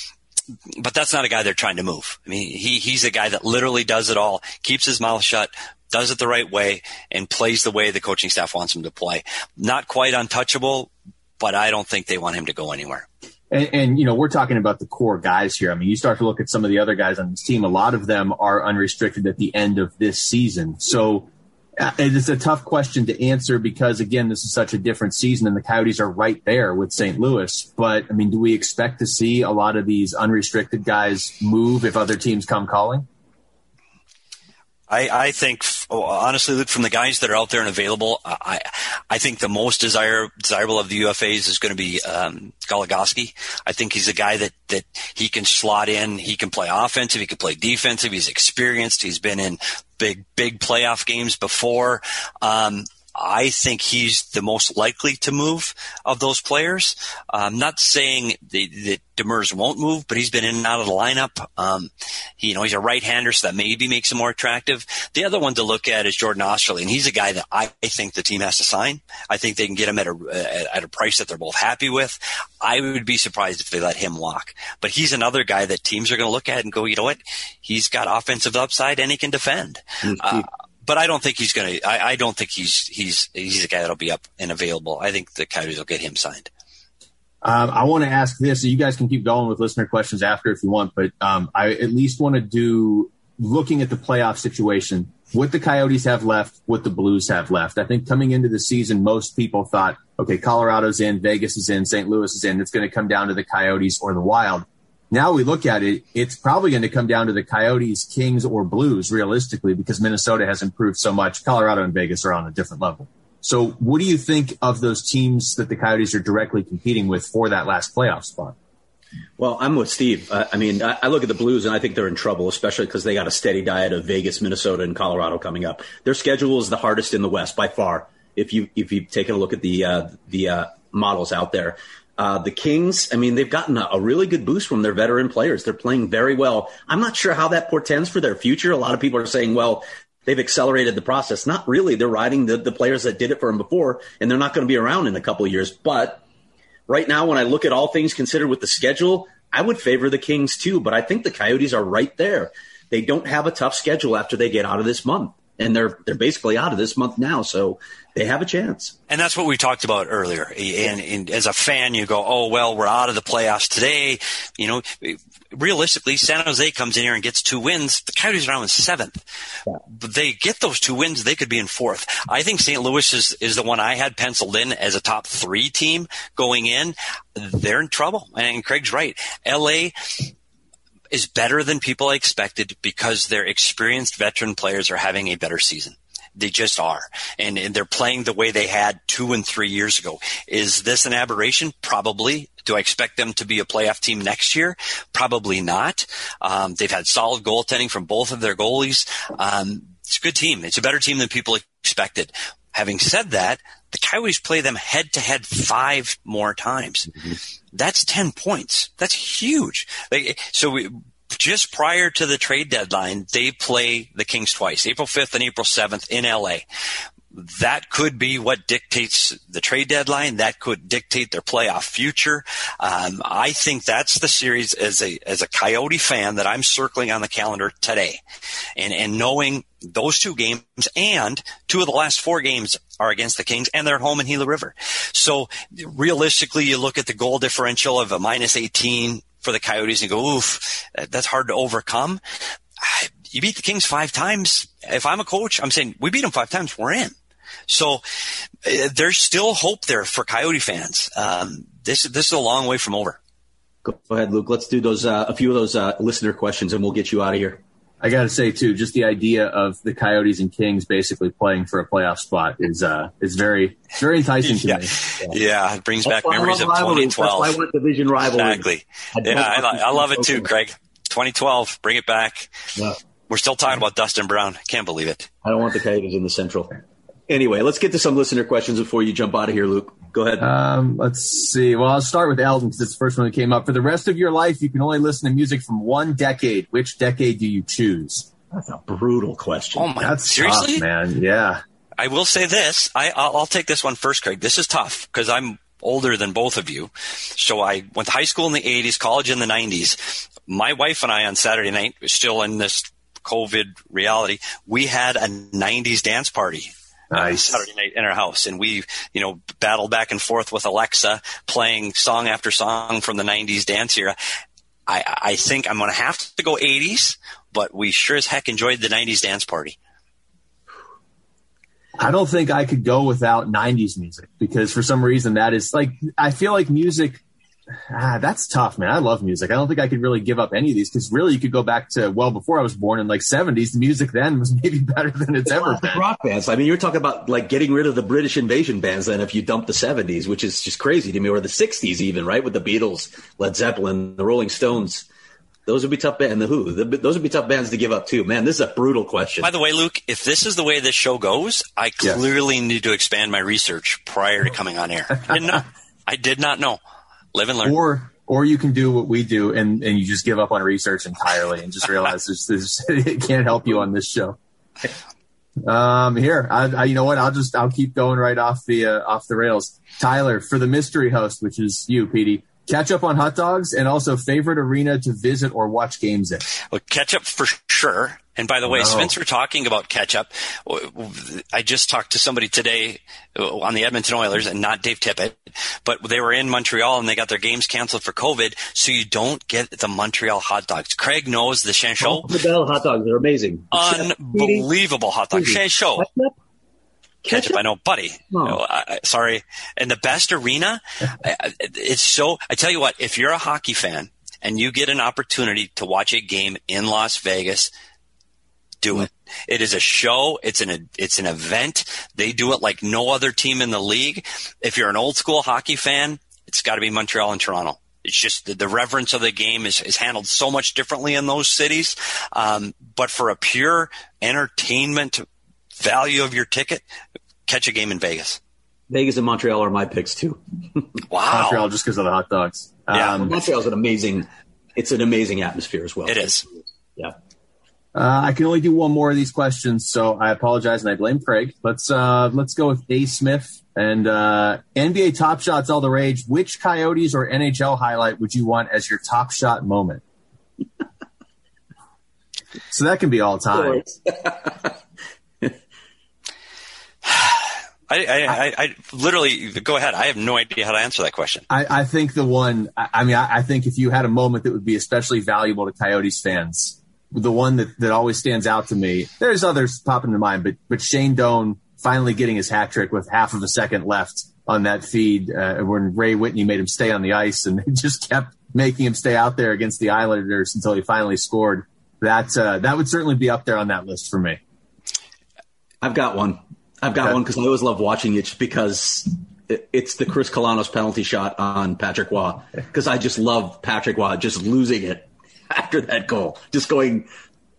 but that's not a guy they're trying to move. I mean, he he's a guy that literally does it all, keeps his mouth shut, does it the right way, and plays the way the coaching staff wants him to play. Not quite untouchable, but I don't think they want him to go anywhere. And, and, you know, we're talking about the core guys here. I mean, you start to look at some of the other guys on this team. A lot of them are unrestricted at the end of this season. So uh, it's a tough question to answer because, again, this is such a different season and the Coyotes are right there with Saint Louis. But, I mean, do we expect to see a lot of these unrestricted guys move if other teams come calling? I, I think, honestly, Luke, from the guys that are out there and available, I I think the most desire, desirable of the U F As is going to be um, Goligoski. I think he's a guy that, that he can slot in. He can play offensive. He can play defensive. He's experienced. He's been in big, big playoff games before. Um, I think he's the most likely to move of those players. I'm not saying that, that Demers won't move, but he's been in and out of the lineup. Um, he, you know, he's a right-hander, so that maybe makes him more attractive. The other one to look at is Jordan Osterley, and he's a guy that I think the team has to sign. I think they can get him at a at a price that they're both happy with. I would be surprised if they let him walk. But he's another guy that teams are going to look at and go, you know what? He's got offensive upside and he can defend. Uh, But I don't think he's going to. I, I don't think he's he's he's a guy that'll be up and available. I think the Coyotes will get him signed. Um, I want to ask this. So you guys can keep going with listener questions after if you want, but um, I at least want to do looking at the playoff situation. What the Coyotes have left, what the Blues have left. I think coming into the season, most people thought, okay, Colorado's in, Vegas is in, Saint Louis is in. It's going to come down to the Coyotes or the Wild. Now we look at it, it's probably going to come down to the Coyotes, Kings, or Blues, realistically, because Minnesota has improved so much. Colorado and Vegas are on a different level. So what do you think of those teams that the Coyotes are directly competing with for that last playoff spot? Well, I'm with Steve. Uh, I mean, I, I look at the Blues, and I think they're in trouble, especially because they got a steady diet of Vegas, Minnesota, and Colorado coming up. Their schedule is the hardest in the West by far, if you if you've taken a look at the, uh, the uh, models out there. Uh, the Kings, I mean, they've gotten a, a really good boost from their veteran players. They're playing very well. I'm not sure how that portends for their future. A lot of people are saying, well, they've accelerated the process. Not really. They're riding the, the players that did it for them before, and they're not going to be around in a couple of years. But right now, when I look at all things considered with the schedule, I would favor the Kings too. But I think the Coyotes are right there. They don't have a tough schedule after they get out of this month. And they're they're basically out of this month now, so they have a chance. And that's what we talked about earlier. And, and as a fan, you go, oh, well, we're out of the playoffs today. You know, realistically, San Jose comes in here and gets two wins. The Coyotes are now in seventh. Yeah. But they get those two wins, they could be in fourth. I think Saint Louis is, is the one I had penciled in as a top three team going in. They're in trouble. And Craig's right. L A is better than people expected because their experienced veteran players are having a better season. They just are. And, and they're playing the way they had two and three years ago. Is this an aberration? Probably. Do I expect them to be a playoff team next year? Probably not. Um, they've had solid goaltending from both of their goalies. Um, it's a good team. It's a better team than people expected. Having said that, the Coyotes play them head-to-head five more times. Mm-hmm. That's ten points. That's huge. Like, so we, just prior to the trade deadline, they play the Kings twice, April fifth and April seventh in L A. That could be what dictates the trade deadline. That could dictate their playoff future. Um, I think that's the series as a as a Coyote fan that I'm circling on the calendar today. And and knowing those two games and two of the last four games are against the Kings and they're at home in Gila River. So realistically, you look at the goal differential of a minus eighteen for the Coyotes and go, oof, that's hard to overcome. You beat the Kings five times. If I'm a coach, I'm saying we beat them five times. We're in. So uh, there's still hope there for Coyote fans. Um, this this is a long way from over. Go ahead, Luke. Let's do those uh, a few of those uh, listener questions, and we'll get you out of here. I got to say too, just the idea of the Coyotes and Kings basically playing for a playoff spot is uh, is very very enticing to yeah. me. Yeah. yeah, it brings back memories of twenty twelve. That's why I want division rivalry. Exactly. I yeah, I, I love it too, Craig. twenty twelve, bring it back. Yeah. We're still talking about Dustin Brown. Can't believe it. I don't want the Coyotes in the Central. Anyway, let's get to some listener questions before you jump out of here, Luke. Go ahead. Um, let's see. Well, I'll start with Eldon because it's the first one that came up. For the rest of your life, you can only listen to music from one decade. Which decade do you choose? That's a brutal question. Oh, my God. That's Seriously? tough, man. Yeah. I will say this. I, I'll, I'll take this one first, Craig. This is tough because I'm older than both of you. So I went to high school in the eighties, college in the nineties. My wife and I on Saturday night, still in this COVID reality, we had a nineties dance party. Nice. Uh, Saturday night in our house, and we, you know, battled back and forth with Alexa, playing song after song from the nineties dance era. I, I think I'm going to have to go eighties, but we sure as heck enjoyed the nineties dance party. I don't think I could go without nineties music because for some reason that is like, I feel like music, ah, that's tough, man. I love music. I don't think I could really give up any of these because really you could go back to well before I was born in like seventies. The music then was maybe better than it's, it's ever been. Rock bands. I mean, you're talking about like getting rid of the British invasion bands then if you dump the seventies, which is just crazy to me, or the sixties even, right? With the Beatles, Led Zeppelin, the Rolling Stones. Those would be tough bands. And the Who, the, those would be tough bands to give up too. Man, this is a brutal question. By the way, Luke, if this is the way this show goes, I clearly yes. need to expand my research prior to coming on air. I didn't know. I did not know. Live and learn. Or or you can do what we do and, and you just give up on research entirely and just realize there's, there's, it can't help you on this show. Um, here, I, I, you know what? I'll just I'll keep going right off the uh, off the rails. Tyler, for the mystery host, which is you, Petey. Catch up on hot dogs and also favorite arena to visit or watch games in. Well, ketchup for sure. And by the way, no. Spencer talking about ketchup, I just talked to somebody today on the Edmonton Oilers, and not Dave Tippett, but they were in Montreal and they got their games canceled for COVID, so you don't get the Montreal hot dogs. Craig knows the Chanchot. The Bell hot dogs are amazing. Unbelievable hot dogs. Chanchot. Ketchup, I know, buddy. Oh. No, I, sorry. And the best arena, it's so, I tell you what, if you're a hockey fan and you get an opportunity to watch a game in Las Vegas, do it. It is a show. It's an, it's an event. They do it like no other team in the league. If you're an old school hockey fan, it's got to be Montreal and Toronto. It's just the, the reverence of the game is, is handled so much differently in those cities. Um, but for a pure entertainment value of your ticket, catch a game in Vegas. Vegas and Montreal are my picks too. Wow. Montreal just because of the hot dogs. Yeah. Um, Montreal's an amazing, it's an amazing atmosphere as well. It is. Yeah. Uh, I can only do one more of these questions, so I apologize and I blame Craig. Let's uh, let's go with A. Smith and uh, N B A Top Shots all the rage. Which Coyotes or N H L highlight would you want as your top shot moment? So that can be all time. I, I, I, I literally go ahead. I have no idea how to answer that question. I, I think the one, I, I mean, I, I think if you had a moment that would be especially valuable to Coyotes fans, the one that, that always stands out to me, there's others popping to mind, but, but Shane Doan finally getting his hat trick with half of a second left on that feed, uh, when Ray Whitney made him stay on the ice and just kept making him stay out there against the Islanders until he finally scored. That, uh, that would certainly be up there on that list for me. I've got one. I've got okay. one because I always love watching it just because it, it's the Chris Kalanos penalty shot on Patrick Waugh, because I just love Patrick Waugh just losing it after that goal, just going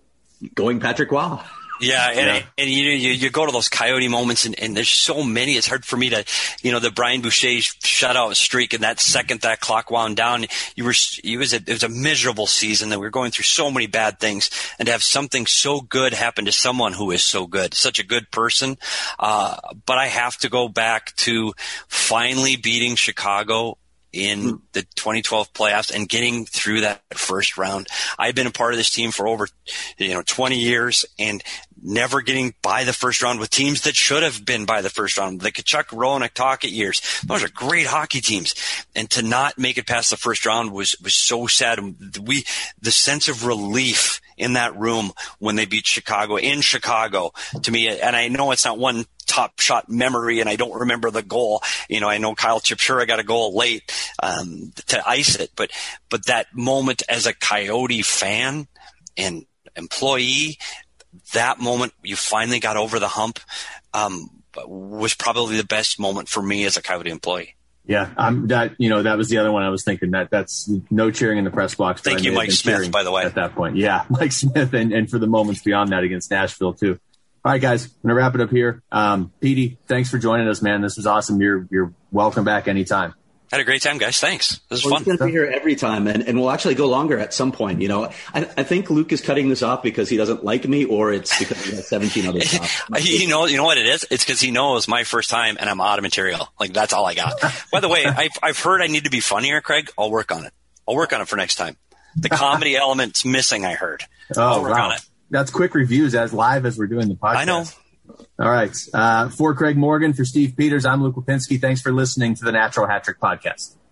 going Patrick Waugh. Yeah, and, yeah. and you, you you go to those Coyote moments, and, and there's so many. It's hard for me to, you know, the Brian Boucher shutout streak, and that second that clock wound down, you were it was a it was a miserable season that we were going through so many bad things, and to have something so good happen to someone who is so good, such a good person. Uh, but I have to go back to finally beating Chicago in the twenty twelve playoffs and getting through that first round. I've been a part of this team for over, you know, twenty years, and never getting by the first round with teams that should have been by the first round. The Kachuk, Rowan, Tocchet years. Those are great hockey teams. And to not make it past the first round was, was so sad. We, the sense of relief in that room when they beat Chicago in Chicago, to me, and I know it's not one top shot memory, and I don't remember the goal. You know, I know Kyle Chipchura got a goal late um, to ice it, but but that moment as a Coyote fan and employee, that moment you finally got over the hump, um, was probably the best moment for me as a Coyote employee. Yeah, um, that you know that was the other one I was thinking. That that's no cheering in the press box. Thank you, Mike Smith, by the way. At that point, yeah, Mike Smith, and, and for the moments beyond that against Nashville too. All right, guys, I'm gonna wrap it up here. Um, Petey, thanks for joining us, man. This was awesome. You're you're welcome back anytime. Had a great time, guys. Thanks. This was well, fun. We're going to be here every time, and, and we'll actually go longer at some point. You know, I, I think Luke is cutting this off because he doesn't like me, or it's because he has seventeen other stops. you know, you know what it is? It's because he knows my first time, and I'm out of material. Like, that's all I got. By the way, I've I've heard I need to be funnier, Craig. I'll work on it. I'll work on it for next time. The comedy element's missing. I heard. Oh, I'll work wow. on it. That's quick reviews as live as we're doing the podcast. I know. All right. Uh, for Craig Morgan, for Steve Peters, I'm Luke Lipinski. Thanks for listening to the Natural Hat Trick Podcast.